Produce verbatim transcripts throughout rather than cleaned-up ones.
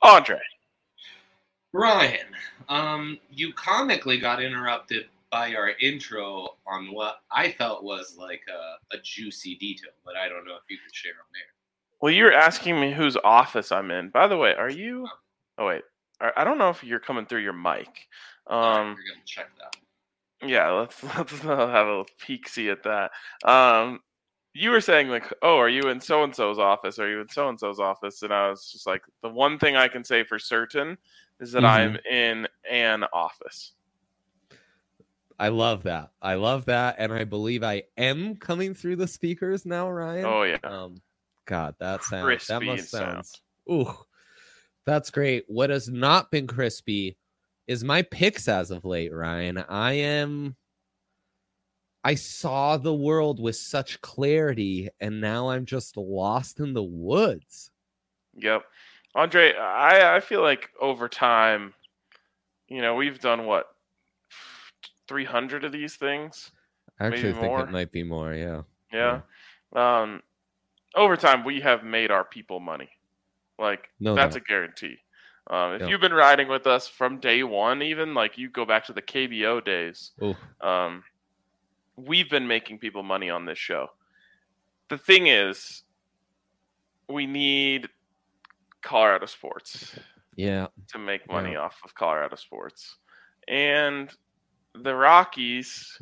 Andre. Ryan, um, you comically got interrupted by our intro on what I felt was like a, a juicy detail, but I don't know if you could share on there. Well, you're asking me whose office I'm in. By the way, are you? Oh wait, I don't know if you're coming through your mic. Um, All right, we're gonna check that. Yeah, let's let's have a peek see at that. Um, you were saying like, oh, are you in so and so's office? Are you in so and so's office? And I was just like, the one thing I can say for certain is that Mm-hmm. I'm in an office. I love that. I love that, and I believe I am coming through the speakers now, Ryan. Oh yeah. Um, God, that sounds Crispy that must sound. sound. Ooh, that's great. What has not been crispy is my picks as of late, Ryan. I am. I saw the world with such clarity, and now I'm just lost in the woods. Yep. Andre, I, I feel like over time, you know, we've done what, three hundred of these things? I actually Maybe think more? it might be more, yeah. Yeah. yeah. Um, over time, we have made our people money. Like, No that's doubt. a guarantee. Um, if Yeah. you've been riding with us from day one, even, like you go back to the K B O days, Ooh. um, we've been making people money on this show. The thing is, we need Colorado sports Yeah. to make money Yeah. off of Colorado sports. And the Rockies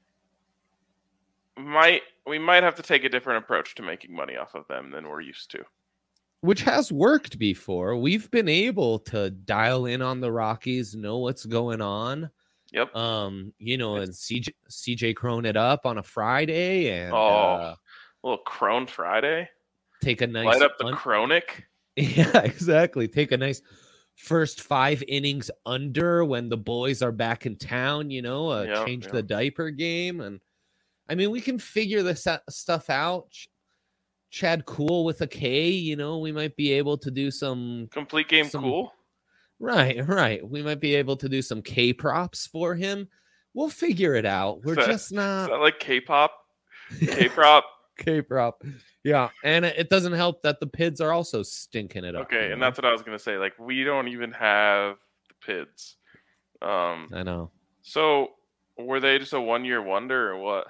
might we might have to take a different approach to making money off of them than we're used to. Which has worked before. We've been able to dial in on the Rockies, know what's going on. Yep. Um, you know, and C J, C J Crone it up on a Friday and Oh, uh, a little Crone Friday. take a nice Light up the un- Chronic. Yeah, exactly. Take a nice first five innings under when the boys are back in town, you know, uh, Yep, change yep. the diaper game. And I mean, we can figure this uh, stuff out. Ch- Chad Cool with a K, you know, we might be able to do some Complete game some- cool. Right, right. We might be able to do some K props for him. We'll figure it out. We're Is that- just Is not that like K-pop? K-prop? K prop. Yeah, and it it doesn't help that the Pids are also stinking it up. Okay, you and know? that's what I was going to say. Like, we don't even have the Pids. Um, I know. so, were they just a one-year wonder or what?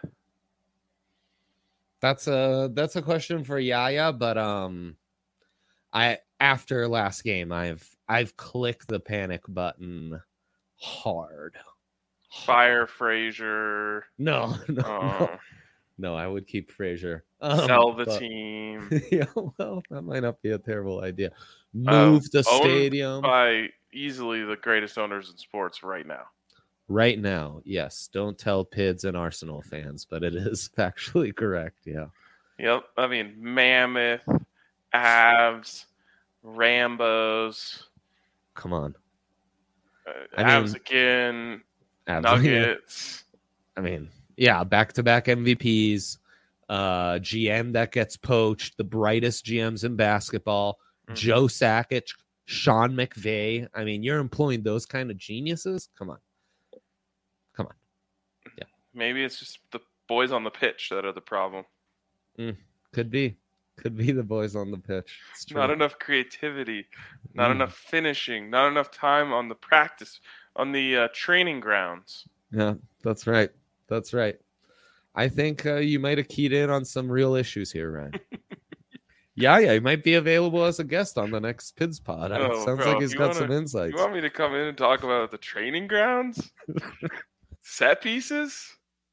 That's a that's a question for Yaya, but um, I after last game, I've I've clicked the panic button hard. Fire Frazier. No, no, no, Uh, no. I would keep Frazier. Um, sell the but- team. Yeah, well, that might not be a terrible idea. Uh, Move the owned stadium By easily the greatest owners in sports right now. right now. Yes, don't tell Pids and Arsenal fans, but it is factually correct. Yeah. Yep. I mean, Mammoth, Avs, Rambos, Come on. uh, I Avs mean- again, Absolutely. Nuggets. I mean, yeah, back-to-back M V Ps, uh, G M that gets poached, the brightest G Ms in basketball, Mhm. Joe Sakic, Sean McVay. I mean, you're employing those kind of geniuses? Come on. Come on. Maybe it's just the boys on the pitch that are the problem. Could be. Could be the boys on the pitch. It's true. Not enough creativity, not Mm. enough finishing, not enough time on the practice, on the uh, training grounds. Yeah, that's right. That's right. I think uh, you might have keyed in on some real issues here, Ryan. yeah, yeah, he might be available as a guest on the next Pids pod. It Oh, sounds bro, like he's you got wanna- some You insights. want me to come in and talk about the training grounds? Set pieces?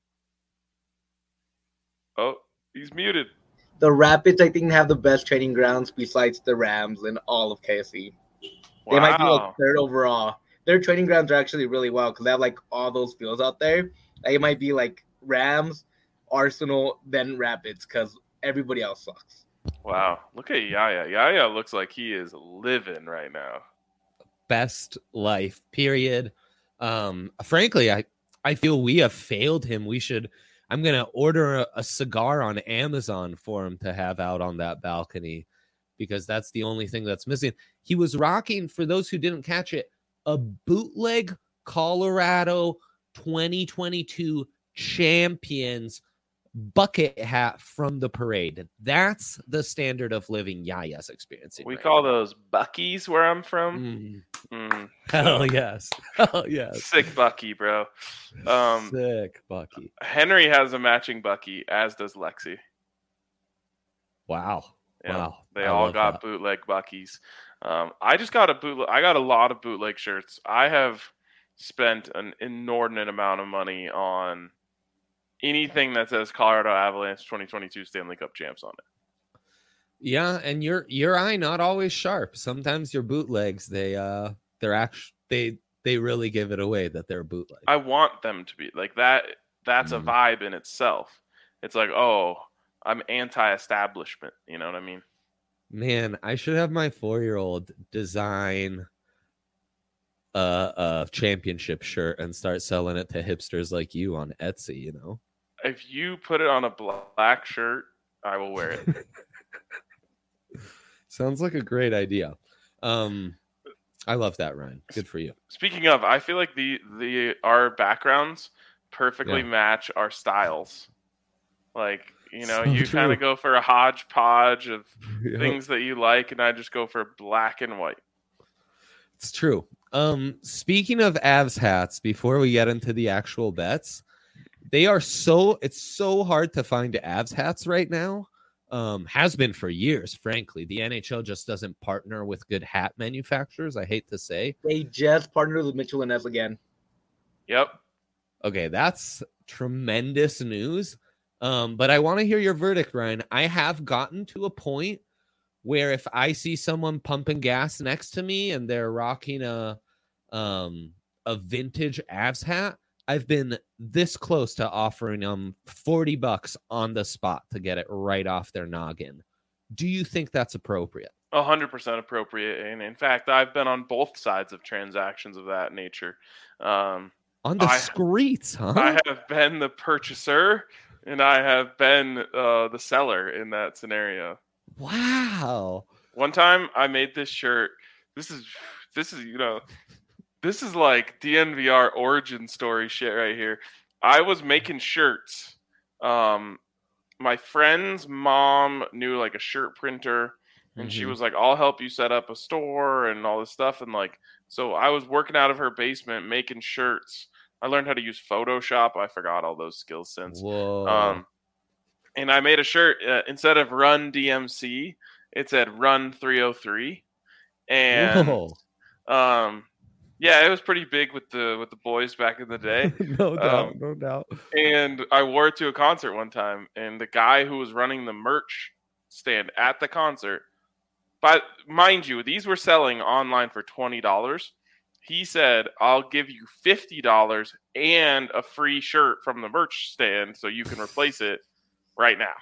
Oh, he's muted. The Rapids, I think, have the best training grounds besides the Rams in all of K S E. They might be like Wow. third overall. Their training grounds are actually really well because they have like all those fields out there. Like, it might be like Rams, Arsenal, then Rapids because everybody else sucks. Wow. Look at Yaya. Yaya looks like he is living right now. Best life, period. Um, frankly, I, I feel we have failed him. We should. I'm gonna order a, a cigar on Amazon for him to have out on that balcony because that's the only thing that's missing. He was rocking, for those who didn't catch it, a bootleg Colorado twenty twenty-two champions bucket hat from the parade. That's the standard of living Yaya's experiencing. We right call now. those Buckies where I'm from. Mm. Mm, Hell so, yes. Hell yes. sick Bucky, bro. Um, Sick Bucky. Henry has a matching Bucky, as does Lexi. Wow. Yeah, Wow. they I all love got that. bootleg Buckies. Um, I just got a bootleg. I got a lot of bootleg shirts. I have spent an inordinate amount of money on anything that says Colorado Avalanche twenty twenty-two Stanley Cup champs on it. Yeah, and your your eye not always sharp. Sometimes your bootlegs, they uh they're actually they they really give it away that they're bootleg. I want them to be like that. That's Mm. a vibe in itself. It's like, oh, I'm anti-establishment. You know what I mean? Man, I should have my four-year-old design a, a championship shirt and start selling it to hipsters like you on Etsy, you know? If you put it on a black shirt, I will wear it. Sounds like a great idea. Um, I love that, Ryan. Good for you. Speaking of, I feel like the the our backgrounds perfectly Yeah. match our styles. Like, you know, So you true. kind of go for a hodgepodge of Yep. things that you like, and I just go for black and white. It's true. Um, speaking of Avs hats, before we get into the actual bets, they are so it's so hard to find Avs hats right now. Um, has been for years, frankly. The N H L just doesn't partner with good hat manufacturers. I hate to say. They just partnered with Mitchell and Ness again. Yep. Okay, that's tremendous news. Um, but I want to hear your verdict, Ryan. I have gotten to a point where if I see someone pumping gas next to me and they're rocking a um a vintage Avs hat, I've been this close to offering them forty bucks on the spot to get it right off their noggin. Do you think that's appropriate? one hundred percent appropriate. And in fact, I've been on both sides of transactions of that nature. Um, On the I- streets, huh? I have been the purchaser and I have been uh, the seller in that scenario. Wow. One time I made this shirt. This is, this is, you know, this is like D N V R origin story shit right here. I was making shirts. Um, my friend's mom knew like a shirt printer, and she Mhm. was like, I'll help you set up a store and all this stuff. And like, so I was working out of her basement making shirts. I learned how to use Photoshop. I forgot all those skills since. Whoa. Um, and I made a shirt uh, instead of Run D M C, it said Run three oh three. And Whoa. um, yeah, it was pretty big with the with the boys back in the day. No doubt, Um, no doubt. And I wore it to a concert one time, and the guy who was running the merch stand at the concert, but mind you, these were selling online for twenty dollars. He said, I'll give you fifty dollars and a free shirt from the merch stand so you can replace it right now.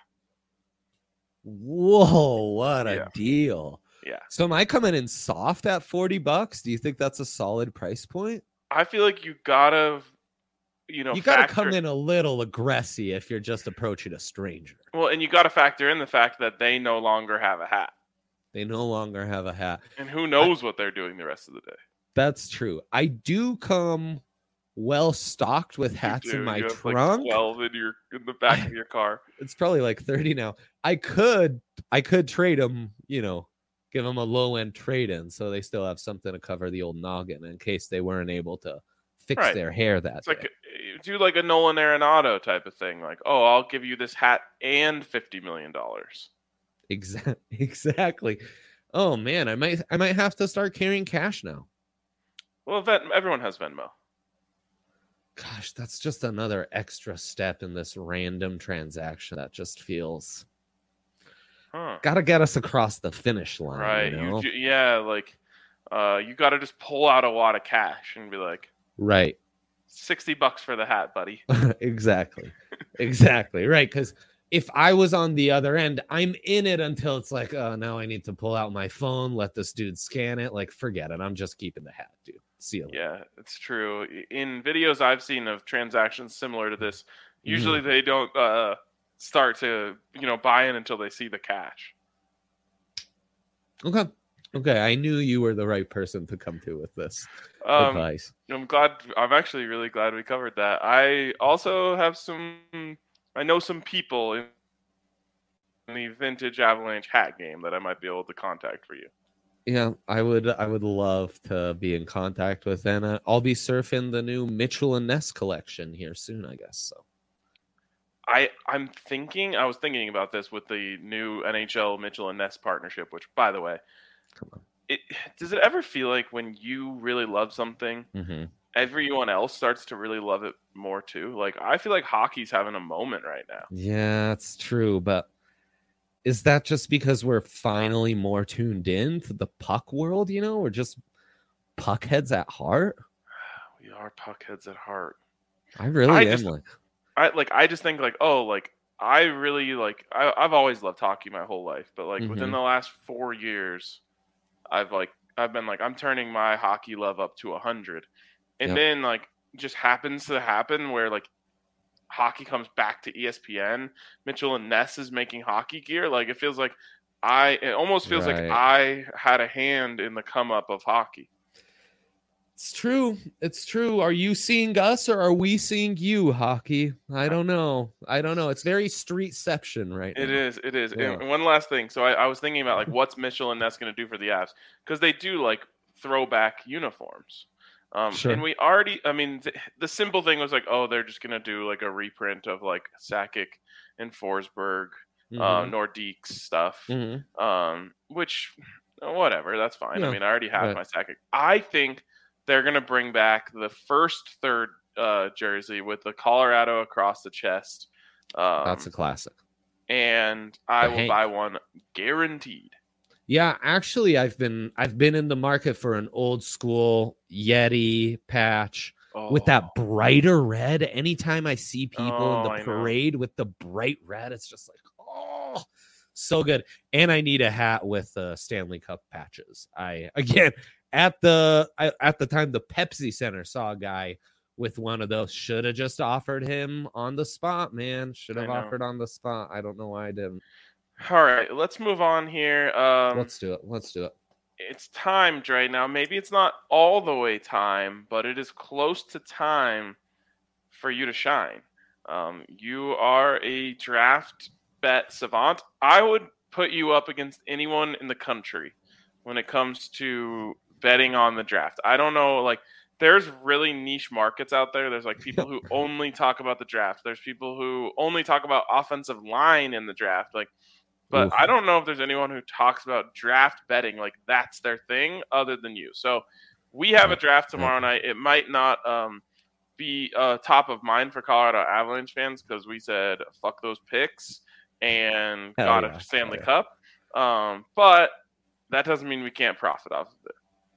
Whoa, what a Yeah. deal. Yeah. So am I coming in soft at forty bucks? Do you think that's a solid price point? I feel like you gotta, you know, You got to factor- come in a little aggressive if you're just approaching a stranger. Well, and you got to factor in the fact that they no longer have a hat. They no longer have a hat. And who knows what they're doing the rest of the day. That's true. I do come well stocked with You hats in do. my You have, like, trunk. twelve in your in the back of your car. It's probably like thirty now. I could I could trade them, you know, give them a low end trade in so they still have something to cover the old noggin in case they weren't able to fix Right. their hair that It's day. like uh, do like a Nolan Arenado type of thing. Like, oh, I'll give you this hat and fifty million dollars. Exactly. Exactly. Oh man, I might I might have to start carrying cash now. Well, Ven- everyone has Venmo. Gosh, that's just another extra step in this random transaction that just feels Huh. gotta get us across the finish line. Right. You You know? ju- yeah, like uh, you got to just pull out a wad of cash and be like, Right. sixty bucks for the hat, buddy. Exactly. Exactly. Right. Because if I was on the other end, I'm in it until it's like, oh, now I need to pull out my phone, let this dude scan it. Like, forget it. I'm just keeping the hat, dude. See you later. Yeah, it's true. In videos I've seen of transactions similar to this, Mm-hmm. usually they don't uh, start to, you know, buy in until they see the cash. Okay. Okay. I knew you were the right person to come to with this Um, advice. I'm glad. I'm actually really glad we covered that. I also have some I know some people in the vintage Avalanche hat game that I might be able to contact for you. Yeah, I would. I would love to be in contact with, and uh, I'll be surfing the new Mitchell and Ness collection here soon, I guess. So, I I'm thinking. I was thinking about this with the new N H L Mitchell and Ness partnership. Which, by the way, come on. It does it ever feel like when you really love something, Mm-hmm. everyone else starts to really love it more too? Like I feel like hockey's having a moment right now. Yeah, it's true, but is that just because we're finally more tuned in to the puck world? You know, we're just puckheads at heart. We are puckheads at heart. I really I am. just- like, I like. I just think like, oh, like I really like. I, I've always loved hockey my whole life, but like within Mhm. the last four years, I've like I've been like I'm turning my hockey love up to a hundred, and Yep. then like just happens to happen where like hockey comes back to E S P N. Mitchell and Ness is making hockey gear. Like it feels like I. It almost feels Right. like I had a hand in the come up of hockey. it's true. It's true. Are you seeing us or are we seeing you, hockey? I don't know. I don't know. It's very streetception right It now. is. It is. Yeah. And one last thing. So I, I was thinking about like what's Mitchell and Ness going to do for the Avs because they do like throwback uniforms. Um, Sure. And we already. I mean, th- the simple thing was like, oh, they're just going to do like a reprint of like Sakic and Forsberg, uh, Mhm. Nordiques stuff. Mhm. Um, which uh, whatever, that's fine. Yeah. I mean, I already have Right. my Sakic. I think they're going to bring back the first third uh, jersey with the Colorado across the chest. Um, That's a classic. and I The will Hank. buy one guaranteed. Yeah, actually, I've been I've been in the market for an old school Yeti patch Oh, with that brighter red. Anytime I see people Oh, in I the know. parade with the bright red, it's just like, oh, so good. And I need a hat with uh, Stanley Cup patches. I again at the I, at the time the Pepsi Center saw a guy with one of those. Should have just offered him on the spot, man. Should I have know. offered on the spot. I don't know why I didn't. All right, let's move on here. Um, Let's do it. Let's do it. it's timed right now. Maybe it's not all the way time, but it is close to time for you to shine. Um, you are a draft bet savant. I would put you up against anyone in the country when it comes to betting on the draft. I don't know, like there's really niche markets out there. There's like people who only talk about the draft. There's people who only talk about offensive line in the draft. Like, but Oof. I don't know if there's anyone who talks about draft betting like that's their thing other than you. So we have a draft tomorrow night. It might not um, be uh, top of mind for Colorado Avalanche fans because we said fuck those picks and Hell got yeah. a Stanley Hell Cup. Um, but that doesn't mean we can't profit off of it.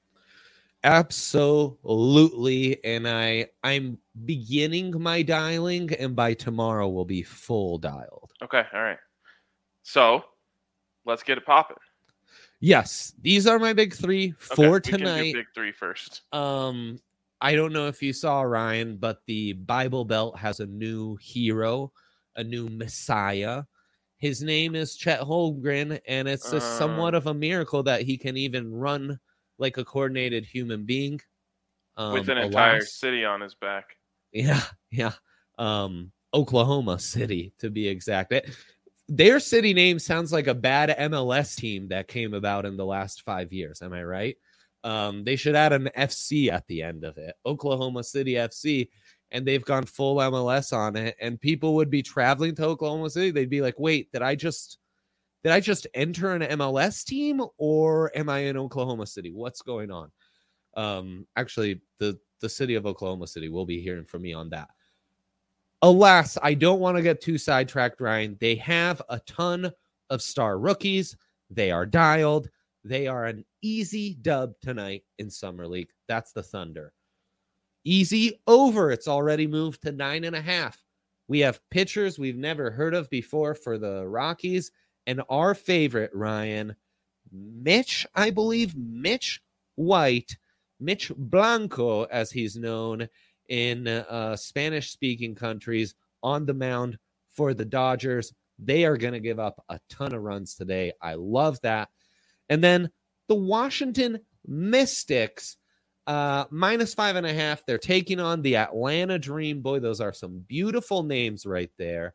Absolutely. And I I'm beginning my dialing, and by tomorrow we'll be full dialed. Okay, all right. So let's get it popping. Yes, these are my big three Okay, for we can do tonight. big three first. Um, I don't know if you saw, Ryan, but the Bible Belt has a new hero, a new Messiah. His name is Chet Holmgren, and it's a Uh. somewhat of a miracle that he can even run like a coordinated human being. Um, With an entire alas- city on his back. Yeah, yeah. Um, Oklahoma City, to be exact. It, their city name sounds like a bad M L S team that came about in the last five years. Am I right? Um, they should add an F C at the end of it, Oklahoma City F C, and they've gone full M L S on it. And people would be traveling to Oklahoma City. They'd be like, "Wait, did I just did I just enter an M L S team, or am I in Oklahoma City? What's going on?" Um, actually, the the city of Oklahoma City will be hearing from me on that. Alas, I don't want to get too sidetracked, Ryan. They have a ton of star rookies. They are dialed. They are an easy dub tonight in Summer League. That's the Thunder. Easy over. It's already moved to nine and a half. We have pitchers we've never heard of before for the Rockies. And our favorite, Ryan, Mitch, I believe, Mitch White, Mitch Blanco, as he's known in uh, Spanish-speaking countries, on the mound for the Dodgers. They are going to give up a ton of runs today. I love that. And then the Washington Mystics, uh, minus five and a half. They're taking on the Atlanta Dream. Boy, those are some beautiful names right there.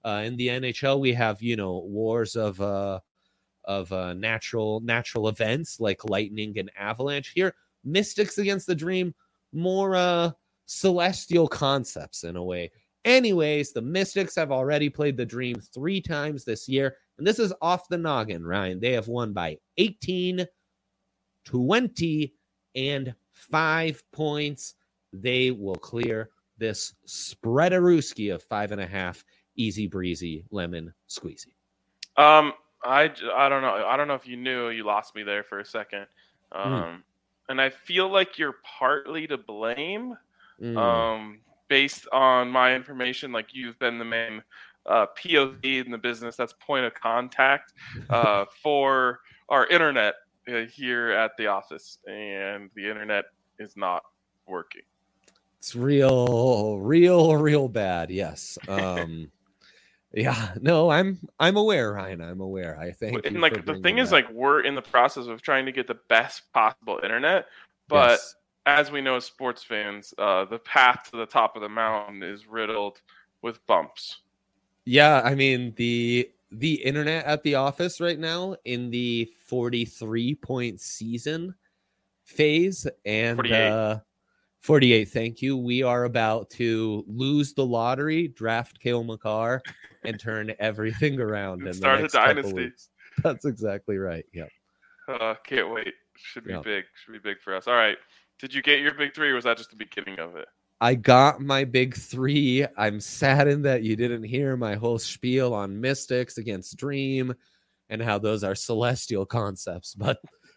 Uh, in the N H L, we have, you know, wars of uh, of uh, natural natural events like lightning and avalanche. Here, Mystics against the Dream, more uh, celestial concepts in a way. Anyways, the Mystics have already played the Dream three times this year, and this is off the noggin, Ryan. They have won by eighteen, twenty, and five points. They will clear this spreadarooski of five and a half. Easy breezy, lemon squeezy. Um, I, I don't know. I don't know if you knew. You lost me there for a second. Um, mm. And I feel like you're partly to blame. Mm. Um, based on my information, like you've been the main uh, P O V in the business. That's point of contact uh, for our internet uh, here at the office, and the internet is not working. It's real, real, real bad. Yes. Um, yeah. No, I'm, I'm aware, Ryan. I'm aware. I think. And like the thing is, that. like we're in the process of trying to get the best possible internet, but yes. as we know as sports fans, uh, the path to the top of the mountain is riddled with bumps. Yeah, I mean the the internet at the office right now in the forty-three point season phase and. forty-eight. Uh, forty-eight, thank you. We are about to lose the lottery, draft Cale Makar, and turn everything around. And start a dynasty. That's exactly right. Yep. Uh, can't wait. Should be yep. big. Should be big for us. All right. Did you get your big three, or was that just the beginning of it? I got my big three. I'm saddened that you didn't hear my whole spiel on Mystics against Dream and how those are celestial concepts, but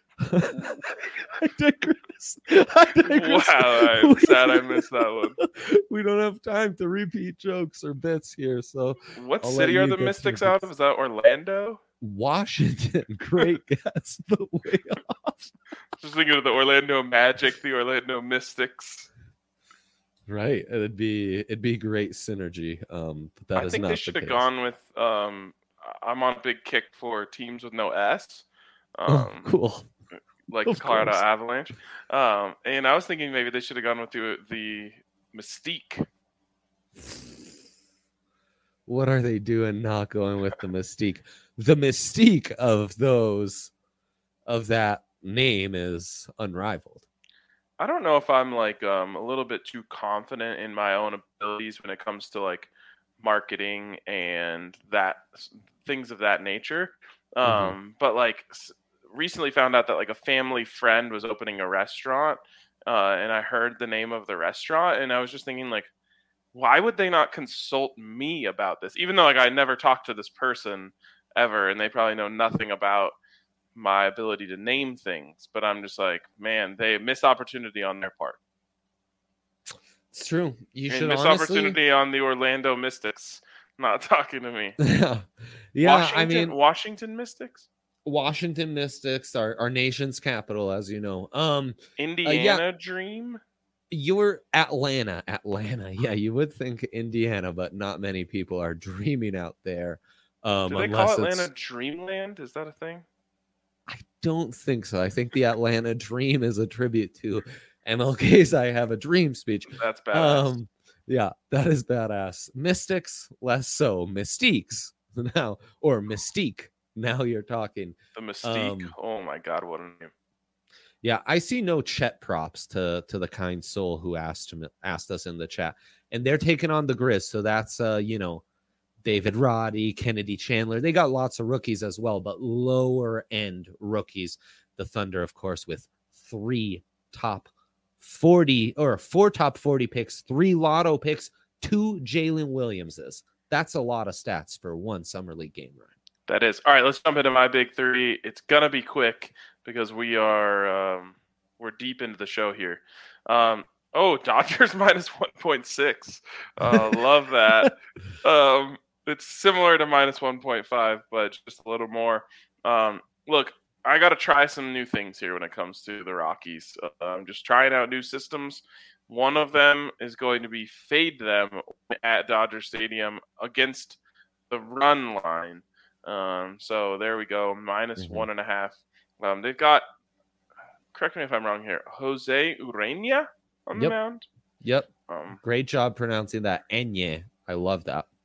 I digress. I digress. Wow, I'm sad I missed that one. We don't have time to repeat jokes or bits here. So, what I'll city are the Mystics out of? Is that Orlando? Washington. Great guess, but way off. Just thinking of the Orlando Magic, the Orlando Mystics. Right, it'd be it'd be great synergy. Um, but that I is think not they the should have case. gone with. Um, I'm on a big kick for teams with no S. Um, oh, cool. Like Of the Colorado course. Avalanche. Um, and I was thinking maybe they should have gone with the, the Mystique. What are they doing not going with the Mystique? The mystique of those, of that name is unrivaled. I don't know if I'm like um, a little bit too confident in my own abilities when it comes to like marketing and that things of that nature. Um, Mm-hmm. But like recently found out that like a family friend was opening a restaurant, uh, and I heard the name of the restaurant, and I was just thinking like, why would they not consult me about this? Even though like I never talked to this person ever, and they probably know nothing about my ability to name things. But I'm just like, man, they missed opportunity on their part. It's true. You and should missed honestly... opportunity on the Orlando Mystics not talking to me. yeah, yeah. Washington, I mean, Washington Mystics. Washington Mystics, our, our nation's capital, as you know. Um, Indiana uh, yeah. Dream. You're Atlanta, Atlanta. Yeah, you would think Indiana, but not many people are dreaming out there. Um, Do they unless call Atlanta it's... Dreamland? Is that a thing? I don't think so. I think the Atlanta Dream is a tribute to M L K's "I Have a Dream" speech. That's badass. Um, yeah, that is badass. Mystics, less so. Mystiques now, or Mystique. Now you're talking. The Mystique. Um, oh my God, what a name! Yeah, I see no Chet props to to the kind soul who asked him asked us in the chat, and they're taking on the Grizz. So that's uh, you know, David Roddy, Kennedy Chandler. They got lots of rookies as well, but lower end rookies. The Thunder, of course, with three top forty or four top forty picks, three lotto picks, two Jalen Williamses. That's a lot of stats for one summer league game, Ryan. That is. All right, let's jump into my big three. It's gonna be quick because we are um, we're deep into the show here. Um, oh, Dodgers minus one point six. Uh, love that. Um, it's similar to minus one point five, but just a little more. Um, look, I got to try some new things here when it comes to the Rockies. Uh, I'm just trying out new systems. One of them is going to be fade them at Dodger Stadium against the run line. Um, so there we go, minus mm-hmm. one and a half. Um, they've got, correct me if I'm wrong here, Jose Urena on the yep. mound. Yep. Um, Great job pronouncing that. Enye. I love that.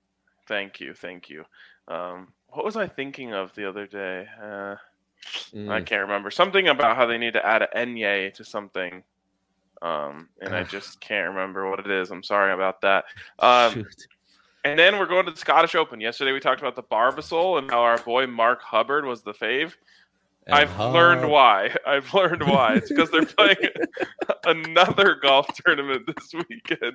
Thank you, thank you. Um, what was I thinking of the other day? Uh, mm. I can't remember. Something about how they need to add an Enye to something. Um, and I just can't remember what it is. I'm sorry about that. Um, Shoot. And then we're going to the Scottish Open. Yesterday we talked about the Barbasol and how our boy Mark Hubbard was the fave. And I've Hub. learned why. I've learned why. It's because they're playing another golf tournament this weekend.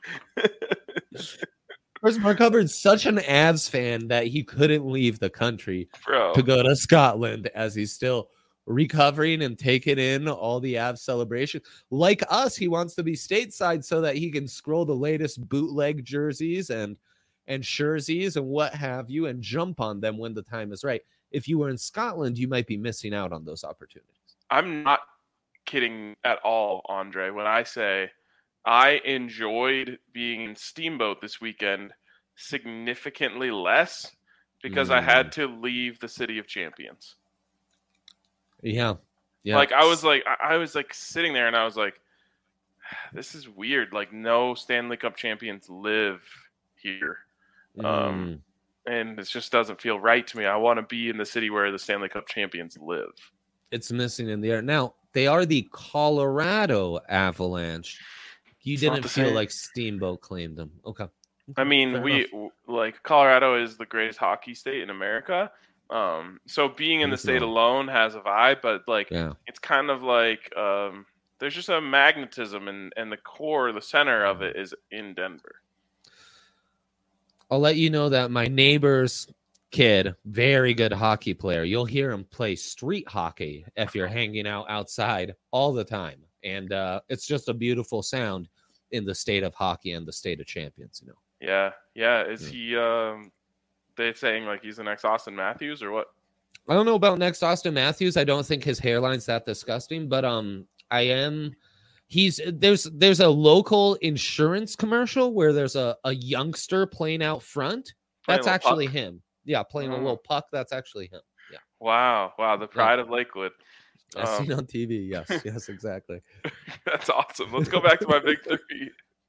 First, Mark Hubbard's such an Avs fan that he couldn't leave the country Bro. to go to Scotland as he's still recovering and taking in all the Avs celebration. Like us, he wants to be stateside so that he can scroll the latest bootleg jerseys and and jerseys and what have you and jump on them when the time is right. If you were in Scotland, you might be missing out on those opportunities. I'm not kidding at all, Andre, when I say I enjoyed being in Steamboat this weekend significantly less because mm. I had to leave the City of Champions. Yeah. Yeah. Like I was like I was like sitting there and I was like, this is weird. Like no Stanley Cup champions live here. Mm. Um and it just doesn't feel right to me. I want to be in the city where the Stanley Cup champions live. It's missing in the air. Now, they are the Colorado Avalanche. You it's didn't feel same. like Steamboat claimed them. Okay. I mean, Fair we enough. like Colorado is the greatest hockey state in America. Um, so being in the state alone has a vibe, but like yeah. it's kind of like um, there's just a magnetism, and and the core, the center of it is in Denver. I'll let you know that my neighbor's kid, very good hockey player. You'll hear him play street hockey if you're hanging out outside all the time, and uh, it's just a beautiful sound in the state of hockey and the state of champions. You know. Yeah, yeah. Is yeah. he? Um... They saying like he's the next Austin Matthews or what? I don't know about next Austin Matthews. I don't think his hairline's that disgusting, but um, I am. He's there's there's a local insurance commercial where there's a, a youngster playing out front. Playing That's actually puck. him. Yeah, playing oh. a little puck. That's actually him. Yeah. Wow, wow, the pride yeah. of Lakewood. I've um, seen on T V. Yes, yes, exactly. That's awesome. Let's go back to my big three.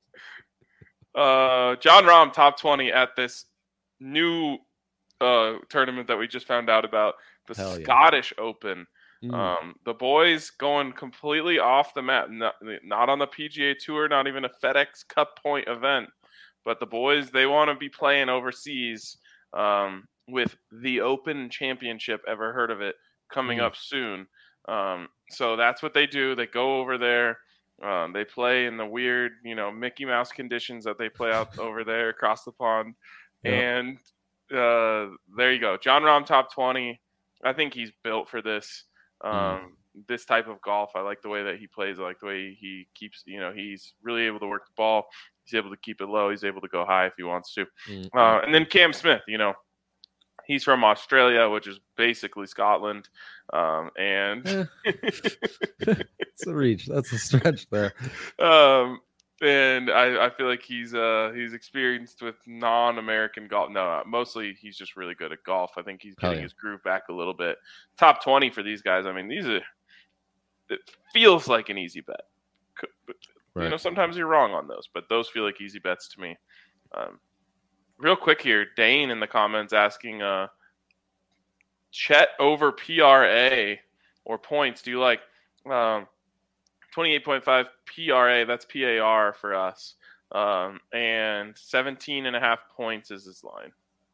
Uh, John Rahm top twenty at this new uh, tournament that we just found out about, the Hell Scottish yeah. Open. Mm. Um, the boys going completely off the map, not, not on the P G A Tour, not even a FedEx Cup point event, but the boys, they want to be playing overseas um, with the Open Championship, ever heard of it, coming mm. up soon. Um, so that's what they do. They go over there. Um, they play in the weird, you know, Mickey Mouse conditions that they play out over there across the pond. Yep. And uh, there you go. John Rahm top twenty. I think he's built for this. Um, mm. This type of golf. I like the way that he plays. I like the way he keeps, you know, he's really able to work the ball. He's able to keep it low. He's able to go high if he wants to. Mm. Uh, and then Cam Smith, you know, he's from Australia, which is basically Scotland. Um, and it's a reach. That's a stretch there. Um, and I, I feel like he's uh he's experienced with non-American golf. No, mostly he's just really good at golf. I think he's getting oh, yeah. his groove back a little bit. Top twenty for these guys. I mean, these are. It feels like an easy bet. Right. You know, sometimes you're wrong on those, but those feel like easy bets to me. Um, real quick here, Dane in the comments asking, uh, Chet over P R A or points. Do you like um, twenty-eight point five P R A? That's P A R for us. Um, and seventeen and a half points is his line.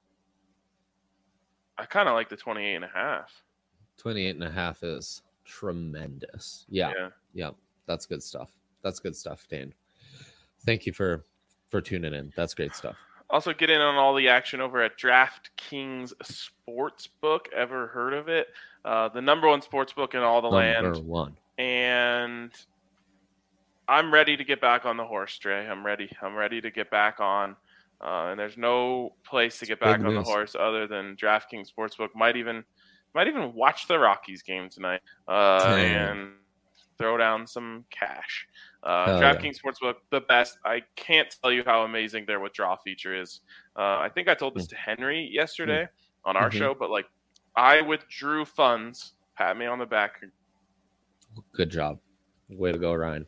I kind of like the twenty-eight and a half. twenty-eight and a half is tremendous. Yeah. Yeah. yeah that's good stuff. That's good stuff, Dan. Thank you for, for tuning in. That's great stuff. Also, get in on all the action over at DraftKings Sportsbook. Ever heard of it? Uh, the number one sportsbook in all the number land. Number one. And I'm ready to get back on the horse, Trey. I'm ready. I'm ready to get back on. Uh, and there's no place to get back Big on news. the horse other than DraftKings Sportsbook. Might even, might even watch the Rockies game tonight uh, and throw down some cash. Uh, DraftKings yeah. Sportsbook, the best. I can't tell you how amazing their withdrawal feature is. Uh, I think I told this mm. to Henry yesterday mm. on our mm-hmm. show, but like I withdrew funds. Pat me on the back. Good job. Way to go, Ryan.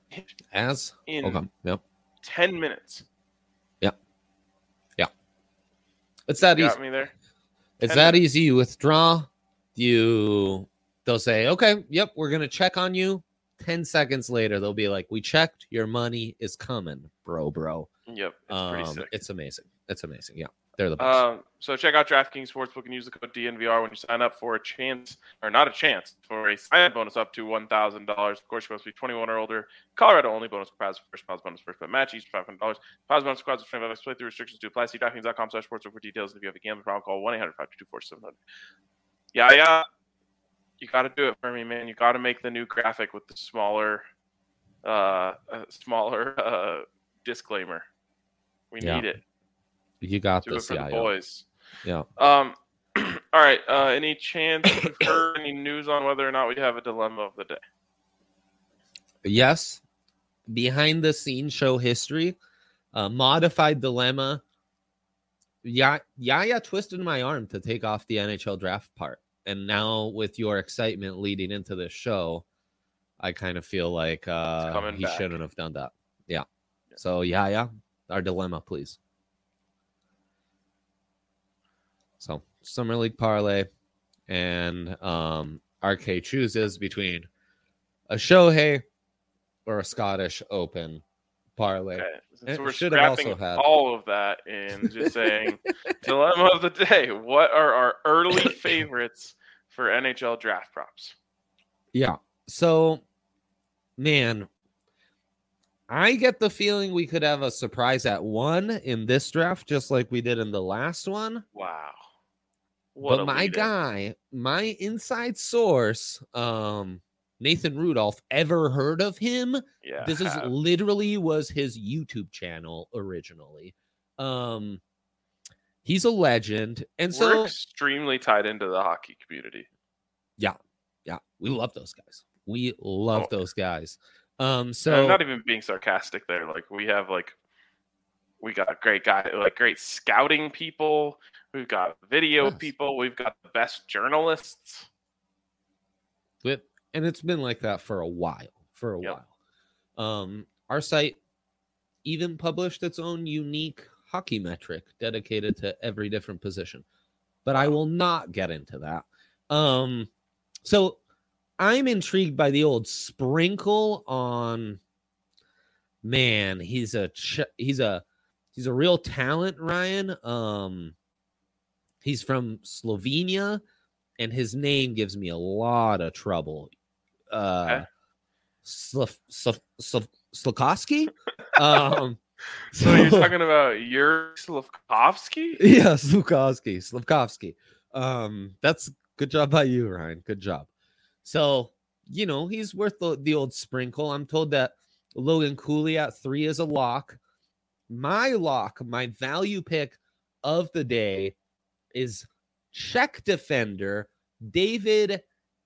As in okay. yep. ten minutes. Yep. Yeah. It's that Got easy. me there. It's ten that minutes. easy. You withdraw. You they'll say, okay, yep, we're gonna check on you. Ten seconds later, they'll be like, we checked. Your money is coming, bro, bro. Yep, it's pretty Um, sick. it's amazing. It's amazing. Yeah, they're the best. Um, so check out DraftKings Sportsbook and use the code D N V R when you sign up for a chance, or not a chance, for a sign-up bonus up to one thousand dollars. Of course, you must be twenty-one or older. Colorado only. Bonus for prize first prize bonus first bet match each five hundred dollars. Prize bonus squads of twenty-five dollars. Play through restrictions to apply. See DraftKings dot com slash sportsbook for details. And if you have a gambling problem, call one eight hundred five two two four seven hundred. Yeah, yeah. You got to do it for me, man. You got to make the new graphic with the smaller, uh, uh smaller uh disclaimer. We Yeah. need it. You got Do it this, for yeah, the yeah. boys. Yeah. Um. All right. Uh, any chance you've heard any news on whether or not we have a dilemma of the day? Yes. Behind the scenes show history, uh, modified dilemma. Yeah, Yaya twisted my arm to take off the N H L draft part. And now with your excitement leading into this show, I kind of feel like uh, coming he back. shouldn't have done that. Yeah. Yeah. So, Yaya, our dilemma, please. So, Summer League Parlay and um, R K chooses between a Shohei or a Scottish Open parlay. Okay. Since It we're should have scrapping also had- all of that and just saying dilemma of the day. What are our early favorites for N H L draft props? Yeah. So, man, I get the feeling we could have a surprise at one in this draft, just like we did in the last one. Wow. What but a my lead-in. guy, my inside source, um, Nathan Rudolph, ever heard of him? Yeah. This is have. literally was his YouTube channel originally. Um, he's a legend, and We're so extremely tied into the hockey community. yeah, we love those guys. We love Oh. those guys. Um, So so I'm not even being sarcastic there. Like we have like we got great guy like great scouting people. We've got video Yes. people. We've got the best journalists. But, and it's been like that for a while. For a Yep. while. Um, our site even published its own unique hockey metric dedicated to every different position. But I will not get into that. Um, so I'm intrigued by the old sprinkle on. Man, he's a ch- he's a he's a real talent, Ryan. Um, he's from Slovenia, and his name gives me a lot of trouble. Uh, Okay. Slav- Slav- Slav- Slakowski? um, So you're talking about Yuri Slavkovsky? yeah, Slukowski, Slavkovsky. Um, that's good job by you, Ryan. Good job. So, you know, he's worth the, the old sprinkle. I'm told that Logan Cooley at three is a lock. My lock, my value pick of the day is Czech defender David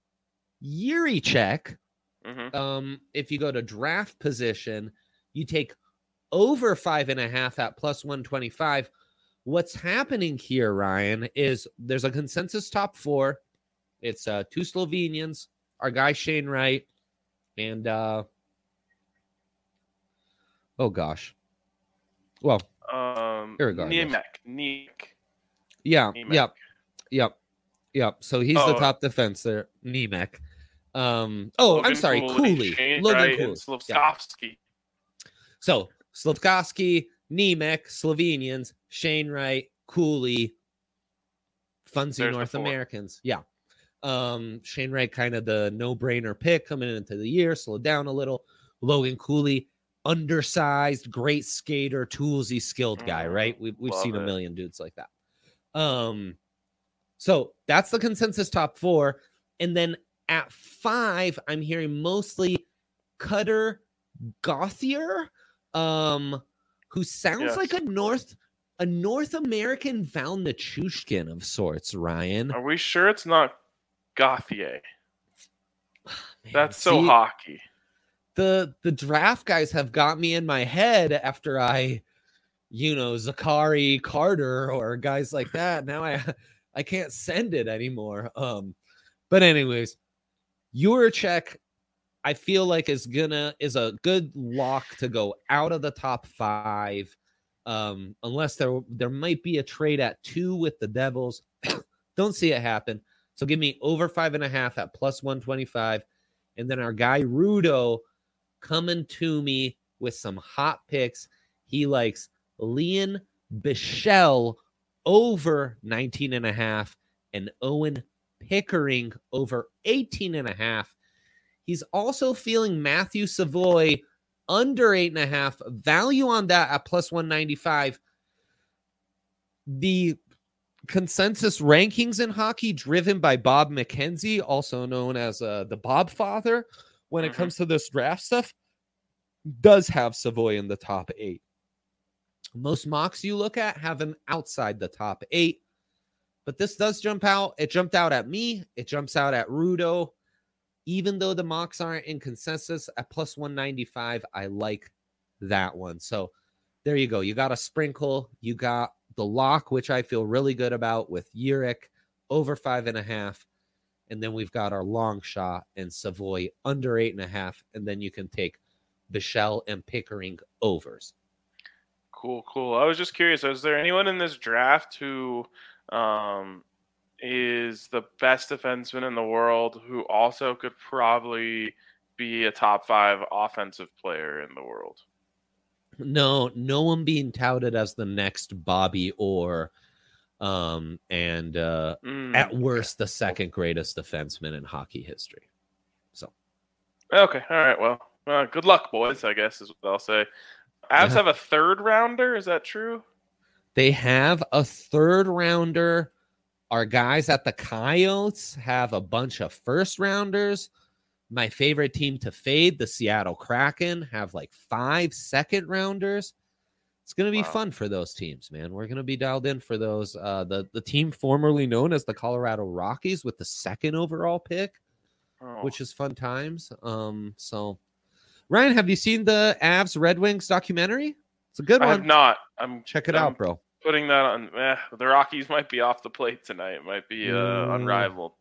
Yurichek. Mm-hmm. Um, if you go to draft position, you take over five and a half at plus one twenty-five. What's happening here, Ryan, is there's a consensus top four. It's uh, two Slovenians, our guy Shane Wright, and uh, oh gosh, well, Um, Irregardless. Niemek. Niemek. yeah, Nemec. yep, yep, yep. So he's the Oh. top defenser, Nemec. Um, oh, I'm Logan sorry, Cooley, Shane Logan Wright, Cooley. and Yeah. Slavkovsky. So Slavkovsky, Nemec, Slovenians, Shane Wright, Cooley, funsy There's the North four. Americans. Yeah. Um, Shane Wright, kind of the no-brainer pick coming into the year, slowed down a little. Logan Cooley, undersized, great skater, toolsy, skilled guy, Mm, right? We've we've love seen a it. million dudes like that. Um, so that's the consensus top four. And then at five, I'm hearing mostly Cutter Gothier, um, who sounds Yes. like a North a North American Val Nichushkin of sorts, Ryan. Are we sure it's not Gauthier? Man, That's so see, hockey. The the draft guys have got me in my head after I, you know, Zakari Carter or guys like that. Now I I can't send it anymore. Um, but anyways, Juracek, I feel like is gonna is a good lock to go out of the top five. Um, unless there there might be a trade at two with the Devils. Don't see it happen. So give me over five and a half at plus one twenty-five. And then our guy Rudo coming to me with some hot picks. He likes Leon Bichelle over nineteen and a half and Owen Pickering over eighteen and a half. He's also feeling Matthew Savoy under eight and a half. Value on that at plus one ninety-five. The consensus rankings in hockey driven by Bob McKenzie, also known as uh, the Bob Father, when mm-hmm. it comes to this draft stuff, does have Savoy in the top eight. Most mocks you look at have him outside the top eight, but this does jump out. It jumped out at me. It jumps out at Rudo. Even though the mocks aren't in consensus at plus one ninety-five, I like that one. So there you go. You got a sprinkle. You got the lock, which I feel really good about with Urich over five and a half. And then we've got our long shot and Savoy under eight and a half. And then you can take Bichelle and Pickering overs. Cool, cool. I was just curious, is there anyone in this draft who um, is the best defenseman in the world who also could probably be a top five offensive player in the world? No, no one being touted as the next Bobby Orr, um, and uh, mm, at worst, okay. the second greatest defenseman in hockey history. So, okay, all right. Well, uh, good luck, boys. I guess is what I'll say. Avs have a third rounder. Is that true? They have a third rounder. Our guys at the Coyotes have a bunch of first rounders. My favorite team to fade, the Seattle Kraken, have like five second rounders. It's going to be wow. fun for those teams, man. We're going to be dialed in for those. Uh, the, the team formerly known as the Colorado Rockies with the second overall pick, oh. which is fun times. Um, so, Ryan, have you seen the Avs Red Wings documentary? It's a good I one. I have not. I'm Check it I'm out, bro. Putting that on. Eh, the Rockies might be off the plate tonight. It might be uh, mm. unrivaled.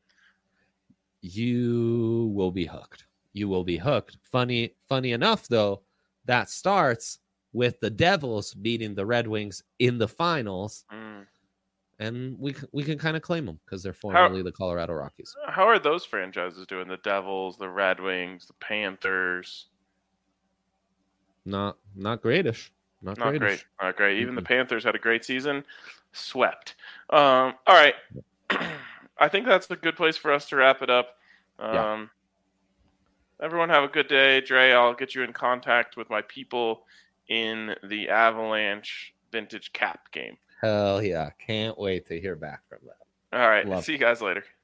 You will be hooked. You will be hooked. Funny, funny enough, though, that starts with the Devils beating the Red Wings in the finals, mm. and we we can kind of claim them because they're formerly how, the Colorado Rockies. How are those franchises doing? The Devils, the Red Wings, the Panthers. Not not greatish. Not, not greatish. great. Not great. Even mm-hmm. the Panthers had a great season. Swept. Um, all right. I think that's a good place for us to wrap it up. Um, yeah. Everyone have a good day. Dre, I'll get you in contact with my people in the Avalanche Vintage Cap game. Hell yeah. Can't wait to hear back from that. All right. Love See it. you guys later.